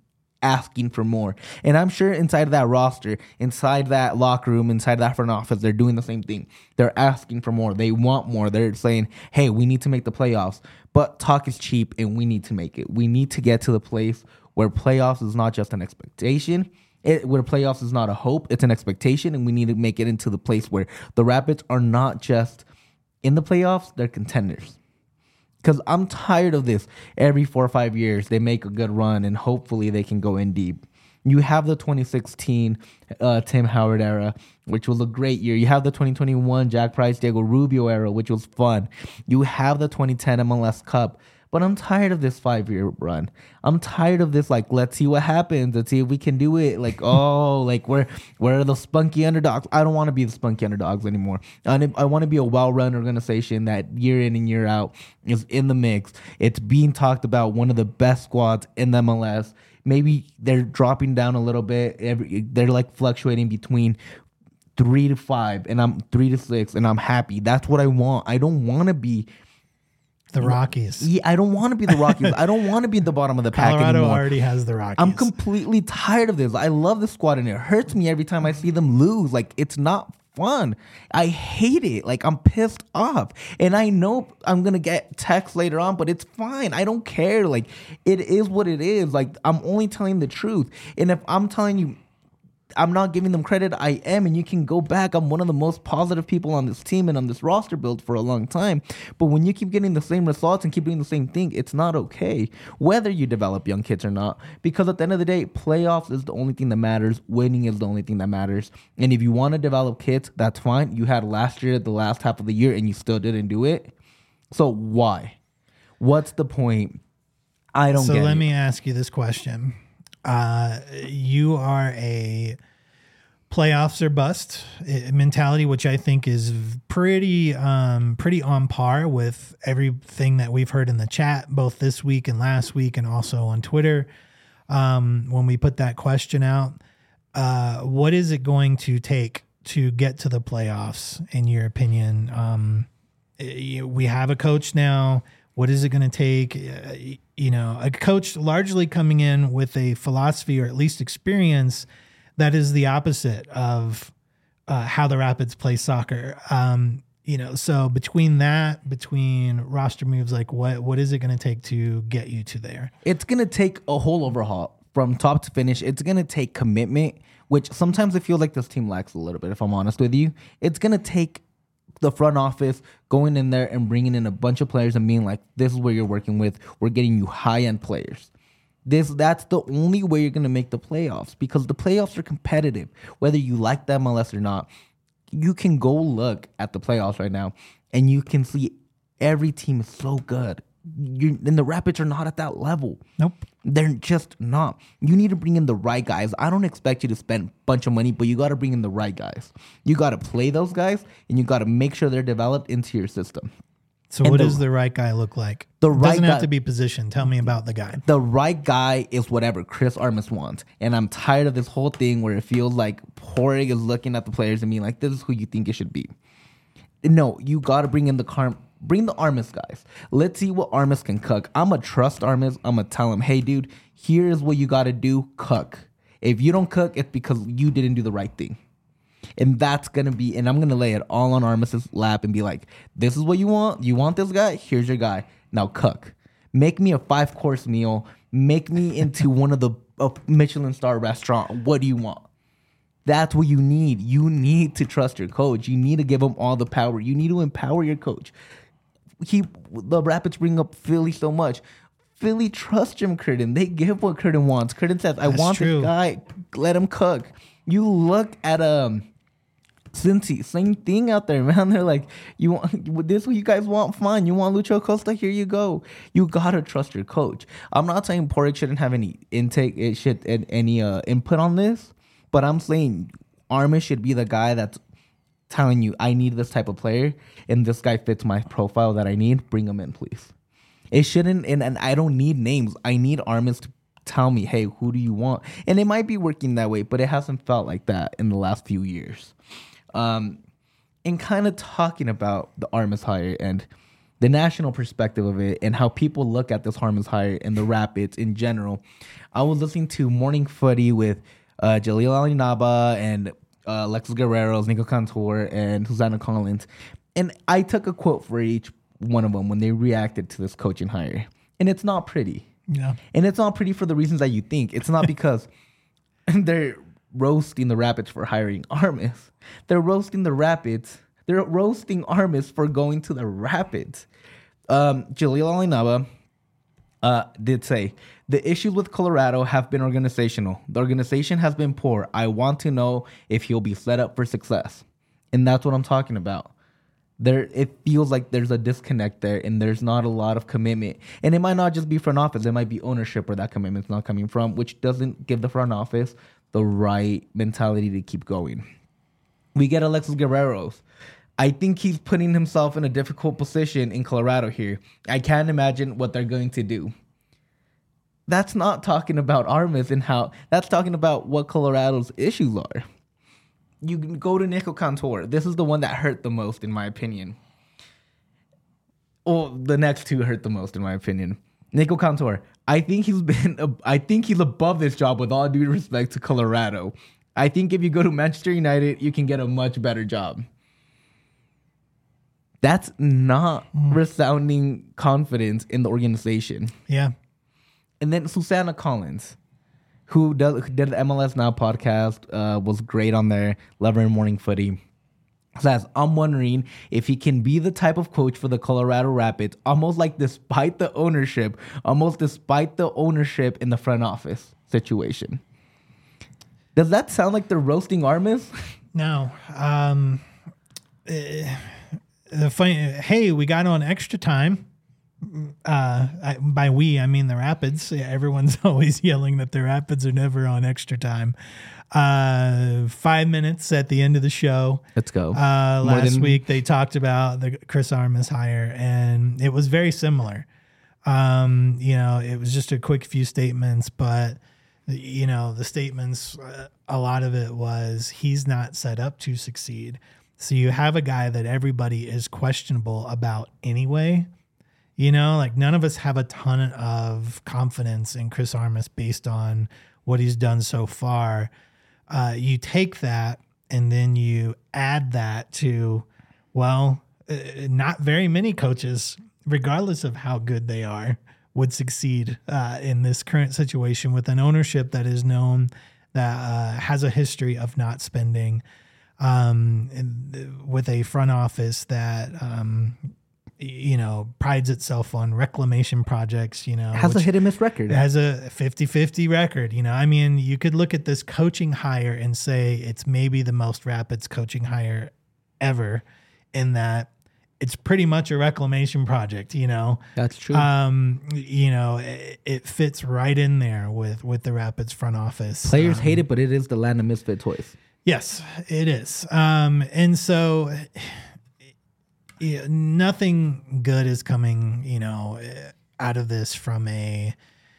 asking for more. And I'm sure inside of that roster, inside that locker room, inside that front office, they're doing the same thing. They're asking for more. They want more. They're saying, hey, we need to make the playoffs. But talk is cheap, and we need to make it. We need to get to the place where playoffs is not just an expectation. Where playoffs is not a hope, it's an expectation, and we need to make it into the place where the Rapids are not just in the playoffs, they're contenders. Because I'm tired of this. Every 4 or 5 years, they make a good run, and hopefully they can go in deep. You have the 2016 Tim Howard era, which was a great year. You have the 2021 Jack Price, Diego Rubio era, which was fun. You have the 2010 MLS Cup. But I'm tired of this 5-year run. I'm tired of this, like, let's see what happens. Let's see if we can do it. Like, oh, like, where are the spunky underdogs? I don't want to be the spunky underdogs anymore. I want to be a well-run organization that year in and year out is in the mix. It's being talked about, one of the best squads in the MLS. Maybe they're dropping down a little bit. They're, like, fluctuating between 3 to 5, and I'm 3 to 6, and I'm happy. That's what I want. I don't want to be the Rockies. Yeah, I don't want to be the Rockies. I don't want to be at the bottom of the pack Colorado anymore. already has the Rockies. I'm completely tired of this. I love the squad, and it hurts me every time I see them lose. Like, it's not fun. I hate it. Like, I'm pissed off. And I know I'm going to get text later on, but it's fine. I don't care. Like, it is what it is. Like, I'm only telling the truth. And if I'm telling you I'm not giving them credit, I am, and you can go back. I'm one of the most positive people on this team and on this roster build for a long time. But when you keep getting the same results and keep doing the same thing, it's not okay, whether you develop young kids or not. Because at the end of the day, playoffs is the only thing that matters. Winning is the only thing that matters. And if you want to develop kids, that's fine. You had last year, the last half of the year, and you still didn't do it. So why? What's the point? I don't get it. So let me ask you this question. You are a playoffs or bust mentality, which I think is pretty on par with everything that we've heard in the chat, both this week and last week, and also on Twitter. When we put that question out, what is it going to take to get to the playoffs, in your opinion? We have a coach now. What is it going to take? A coach largely coming in with a philosophy, or at least experience, that is the opposite of how the Rapids play soccer. So between roster moves, like what is it going to take to get you to there? It's going to take a whole overhaul from top to finish. It's going to take commitment, which sometimes I feel like this team lacks a little bit, if I'm honest with you. It's going to take the front office going in there and bringing in a bunch of players and being like, this is what you're working with. We're getting you high-end players. That's the only way you're going to make the playoffs, because the playoffs are competitive. Whether you like the MLS or not, you can go look at the playoffs right now, and you can see every team is so good. And the Rapids are not at that level. Nope. They're just not. You need to bring in the right guys. I don't expect you to spend a bunch of money, but you got to bring in the right guys. You got to play those guys, and you got to make sure they're developed into your system. So what does the right guy look like? The right doesn't guy, have to be positioned. Tell me about the guy. The right guy is whatever Chris Armas wants. And I'm tired of this whole thing where it feels like Porig is looking at the players and being like, this is who you think it should be. No, you got to bring in bring the Armas guys. Let's see what Armas can cook. I'm going to trust Armas. I'm going to tell him, hey, dude, here's what you got to do. Cook. If you don't cook, it's because you didn't do the right thing. And that's going to be, and I'm going to lay it all on Armas' lap and be like, this is what you want. You want this guy? Here's your guy. Now cook. Make me a 5-course meal. Make me into one of the Michelin star restaurant. What do you want? That's what you need. You need to trust your coach. You need to give him all the power. You need to empower your coach. The Rapids bring up Philly so much. Philly trusts Jim Curtin. They give what Curtin wants. Curtin says, I want this guy. Let him cook. You look at Cincy, same thing out there, man. They're like, you want this? What you guys want? Fine. You want Lucho Costa? Here you go. You gotta trust your coach. I'm not saying Porig shouldn't have any any input on this, but I'm saying Armas should be the guy that's telling you, I need this type of player, and this guy fits my profile that I need. Bring him in, please. It shouldn't, and I don't need names. I need Armas to tell me, hey, who do you want? And it might be working that way, but it hasn't felt like that in the last few years. And kind of talking about the Armas hire, and the national perspective of it and how people look at this Armas hire and the Rapids in general. I was listening to Morning Footy with Jaleel Alinaba and Alexis Guerrero, Nico Cantor, and Susanna Collins. And I took a quote for each one of them when they reacted to this coaching hire. And it's not pretty. Yeah. And it's not pretty for the reasons that you think. It's not because they're roasting the Rapids for hiring Armas. They're roasting the Rapids. They're roasting Armas for going to the Rapids. Jaleel Alinaba did say, the issues with Colorado have been organizational. The organization has been poor. I want to know if he'll be set up for success. And that's what I'm talking about. It feels like there's a disconnect there and there's not a lot of commitment. And it might not just be front office. It might be ownership where that commitment's not coming from, which doesn't give the front office the right mentality to keep going. We get Alexis Guerrero. I think he's putting himself in a difficult position in Colorado here. I can't imagine what they're going to do. That's not talking about Armas and how, that's talking about what Colorado's issues are. You can go to Nico Cantor. This is the one that hurt the most, in my opinion. Well, the next two hurt the most, in my opinion. Nico Cantor. I think he's above this job with all due respect to Colorado. I think if you go to Manchester United, you can get a much better job. That's not resounding confidence in the organization. Yeah. And then Susanna Collins, who did the MLS Now podcast, was great on there. Love her in Morning Footy. Says, I'm wondering if he can be the type of coach for the Colorado Rapids, almost despite the ownership in the front office situation. Does that sound like they're roasting Armas? No. The funny, hey, we got on extra time. By we, I mean the Rapids. Everyone's always yelling that the Rapids are never on extra time. 5 minutes at the end of the show. Let's go. Last week they talked about the Chris Armas hire, and it was very similar. It was just a quick few statements, but the statements, a lot of it was he's not set up to succeed. So you have a guy that everybody is questionable about anyway. None of us have a ton of confidence in Chris Armas based on what he's done so far. You take that and then you add that to, not very many coaches, regardless of how good they are, would succeed in this current situation with an ownership that is known, that has a history of not spending, with a front office that prides itself on reclamation projects, has a hit and miss record. It has a 50-50 record. You could look at this coaching hire and say it's maybe the most Rapids coaching hire ever, in that it's pretty much a reclamation project, That's true. It fits right in there with the Rapids front office. Players hate it, but it is the land of misfit toys. Yes, it is. And so nothing good is coming, out of this from a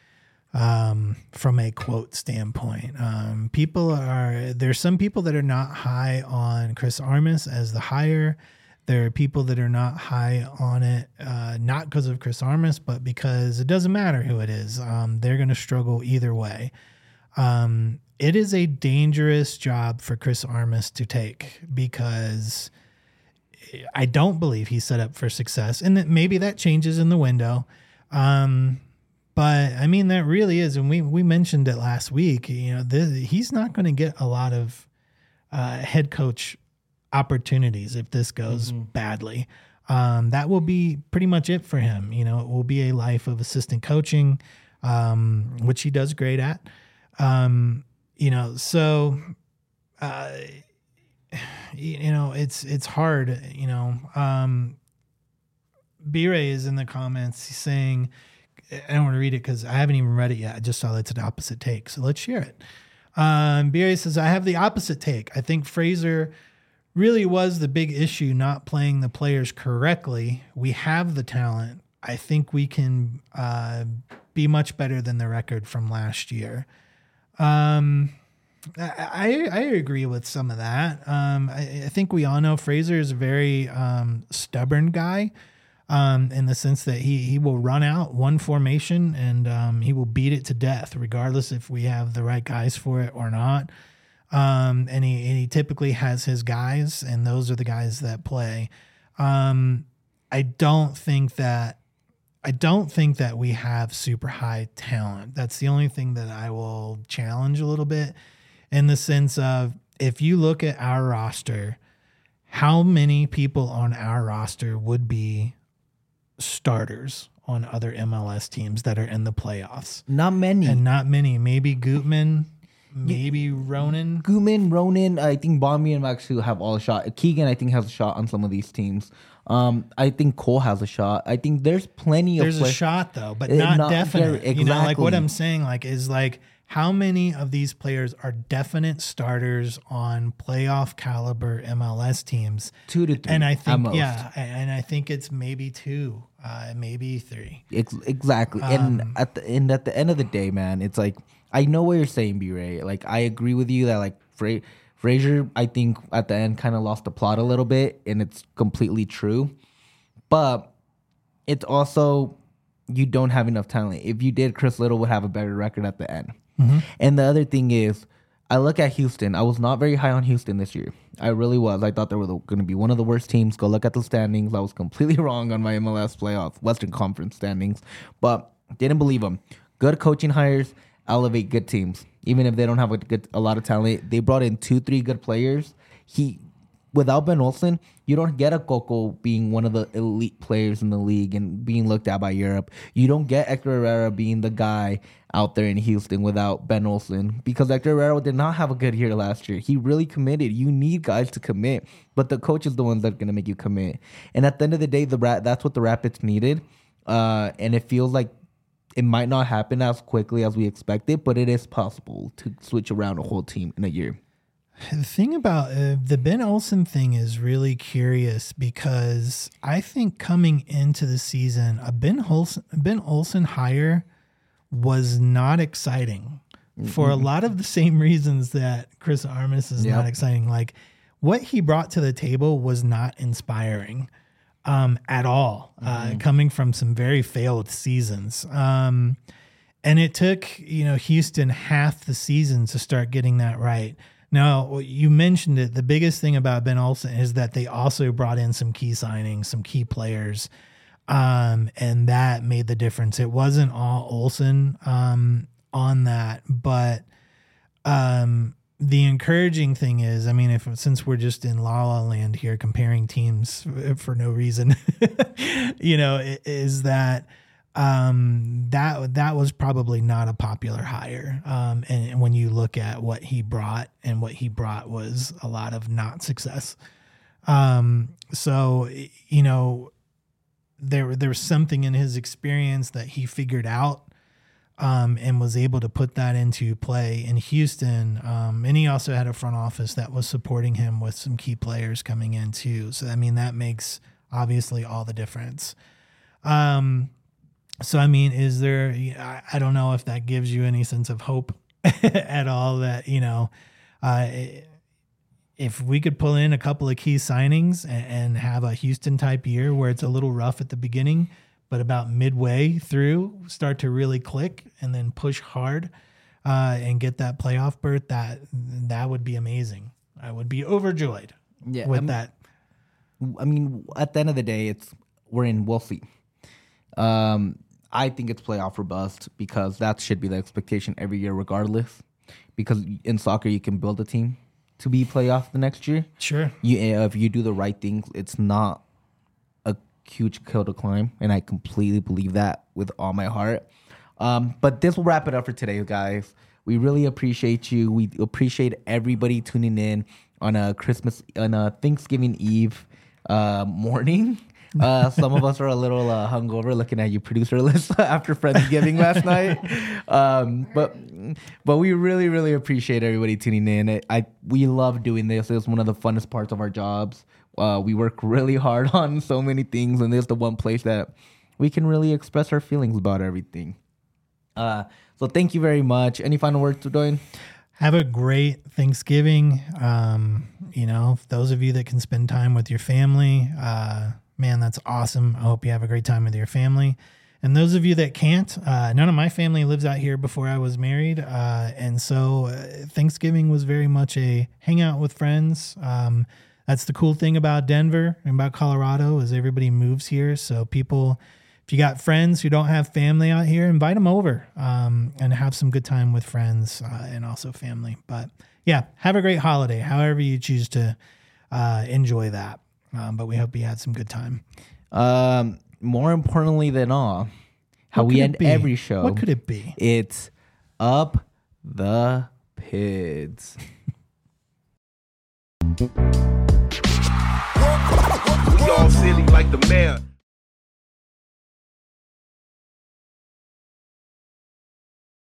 quote standpoint. There's some people that are not high on Chris Armas as the hire. There are people that are not high on it, not because of Chris Armas, but because it doesn't matter who it is. They're going to struggle either way. It is a dangerous job for Chris Armas to take, because I don't believe he's set up for success, and that maybe that changes in the window. But that really is, and we mentioned it last week. He's not going to get a lot of head coach opportunities if this goes badly. That will be pretty much it for him. It will be a life of assistant coaching, which he does great at. It's hard, B-Ray is in the comments. He's saying, I don't want to read it because I haven't even read it yet. I just saw that it's an opposite take. So let's share it. B-Ray says, I have the opposite take. I think Fraser really was the big issue, not playing the players correctly. We have the talent. I think we can be much better than the record from last year. I agree with some of that. I think we all know Fraser is a very stubborn guy. in the sense that he will run out one formation and he will beat it to death, regardless if we have the right guys for it or not. And he typically has his guys, and those are the guys that play. I don't think that we have super high talent. That's the only thing that I will challenge a little bit, in the sense of, if you look at our roster, how many people on our roster would be starters on other MLS teams that are in the playoffs? Not many. And not many. Maybe Gutman, maybe Ronan. Ronan, I think Bombi and Maxu have all a shot. Keegan, I think, has a shot on some of these teams. I think Cole has a shot. I think there's plenty of. There's a shot though, but not definite. Exactly. You know, like what I'm saying, like is like, how many of these players are definite starters on playoff caliber MLS teams? 2 to 3. And I think, most. and I think it's maybe 2, maybe 3. Exactly. And at the end of the day, man, it's like, I know what you're saying, B-Ray. Like, I agree with you that, like, Frazier, I think at the end kind of lost the plot a little bit, and it's completely true. But it's also, you don't have enough talent. If you did, Chris Little would have a better record at the end. Mm-hmm. And the other thing is, I look at Houston. I was not very high on Houston this year. I really was. I thought they were going to be one of the worst teams. Go look at the standings. I was completely wrong on my MLS playoff Western Conference standings, but didn't believe them. Good coaching hires elevate good teams, even if they don't have a lot of talent. They brought in 2-3 good players. Without Ben Olsen, you don't get a Coco being one of the elite players in the league and being looked at by Europe. You don't get Hector Herrera being the guy out there in Houston without Ben Olsen, because Hector Herrera did not have a good year last year. He really committed. You need guys to commit, but the coach is the ones that are going to make you commit. And at the end of the day, that's what the Rapids needed. And it feels like it might not happen as quickly as we expected, but it is possible to switch around a whole team in a year. The thing about the Ben Olsen thing is really curious, because I think coming into the season, a Ben Olsen hire was not exciting for a lot of the same reasons that Chris Armas is not exciting. Like, what he brought to the table was not inspiring at all, coming from some very failed seasons. And it took, Houston half the season to start getting that right. Now, you mentioned it. The biggest thing about Ben Olsen is that they also brought in some key signings, some key players, and that made the difference. It wasn't all Olsen on that, but the encouraging thing is, I mean, since we're just in La La Land here comparing teams for no reason, is that that was probably not a popular hire. And when you look at what he brought, and what he brought was a lot of not success. So, there was something in his experience that he figured out, and was able to put that into play in Houston. And he also had a front office that was supporting him with some key players coming in too. So, I mean, that makes obviously all the difference. So, I mean, is there, I don't know if that gives you any sense of hope at all that, if we could pull in a couple of key signings and have a Houston type year where it's a little rough at the beginning, but about midway through start to really click and then push hard and get that playoff berth, that would be amazing. I would be overjoyed with that. I mean, at the end of the day, we'll see. I think it's playoff or bust, because that should be the expectation every year regardless, because in soccer you can build a team to be playoff the next year. Sure. If you do the right things, it's not a huge hill to climb, and I completely believe that with all my heart. But this will wrap it up for today, guys. We really appreciate you. We appreciate everybody tuning in on a Thanksgiving Eve morning. Some of us are a little hungover looking at you, producer list, after Friendsgiving last night. But we really, really appreciate everybody tuning in. We love doing this. It's one of the funnest parts of our jobs. We work really hard on so many things, and this is the one place that we can really express our feelings about everything. So thank you very much. Any final words, Dwayne? Have a great Thanksgiving. Those of you that can spend time with your family, man, that's awesome. I hope you have a great time with your family. And those of you that can't, none of my family lives out here before I was married. And so Thanksgiving was very much a hangout with friends. That's the cool thing about Denver and about Colorado is everybody moves here. So people, if you got friends who don't have family out here, invite them over and have some good time with friends and also family. But yeah, have a great holiday, however you choose to enjoy that. But we hope you had some good time. More importantly than all, how What we could it end be? every show. What could it be? It's up the pids. We all silly like the mayor.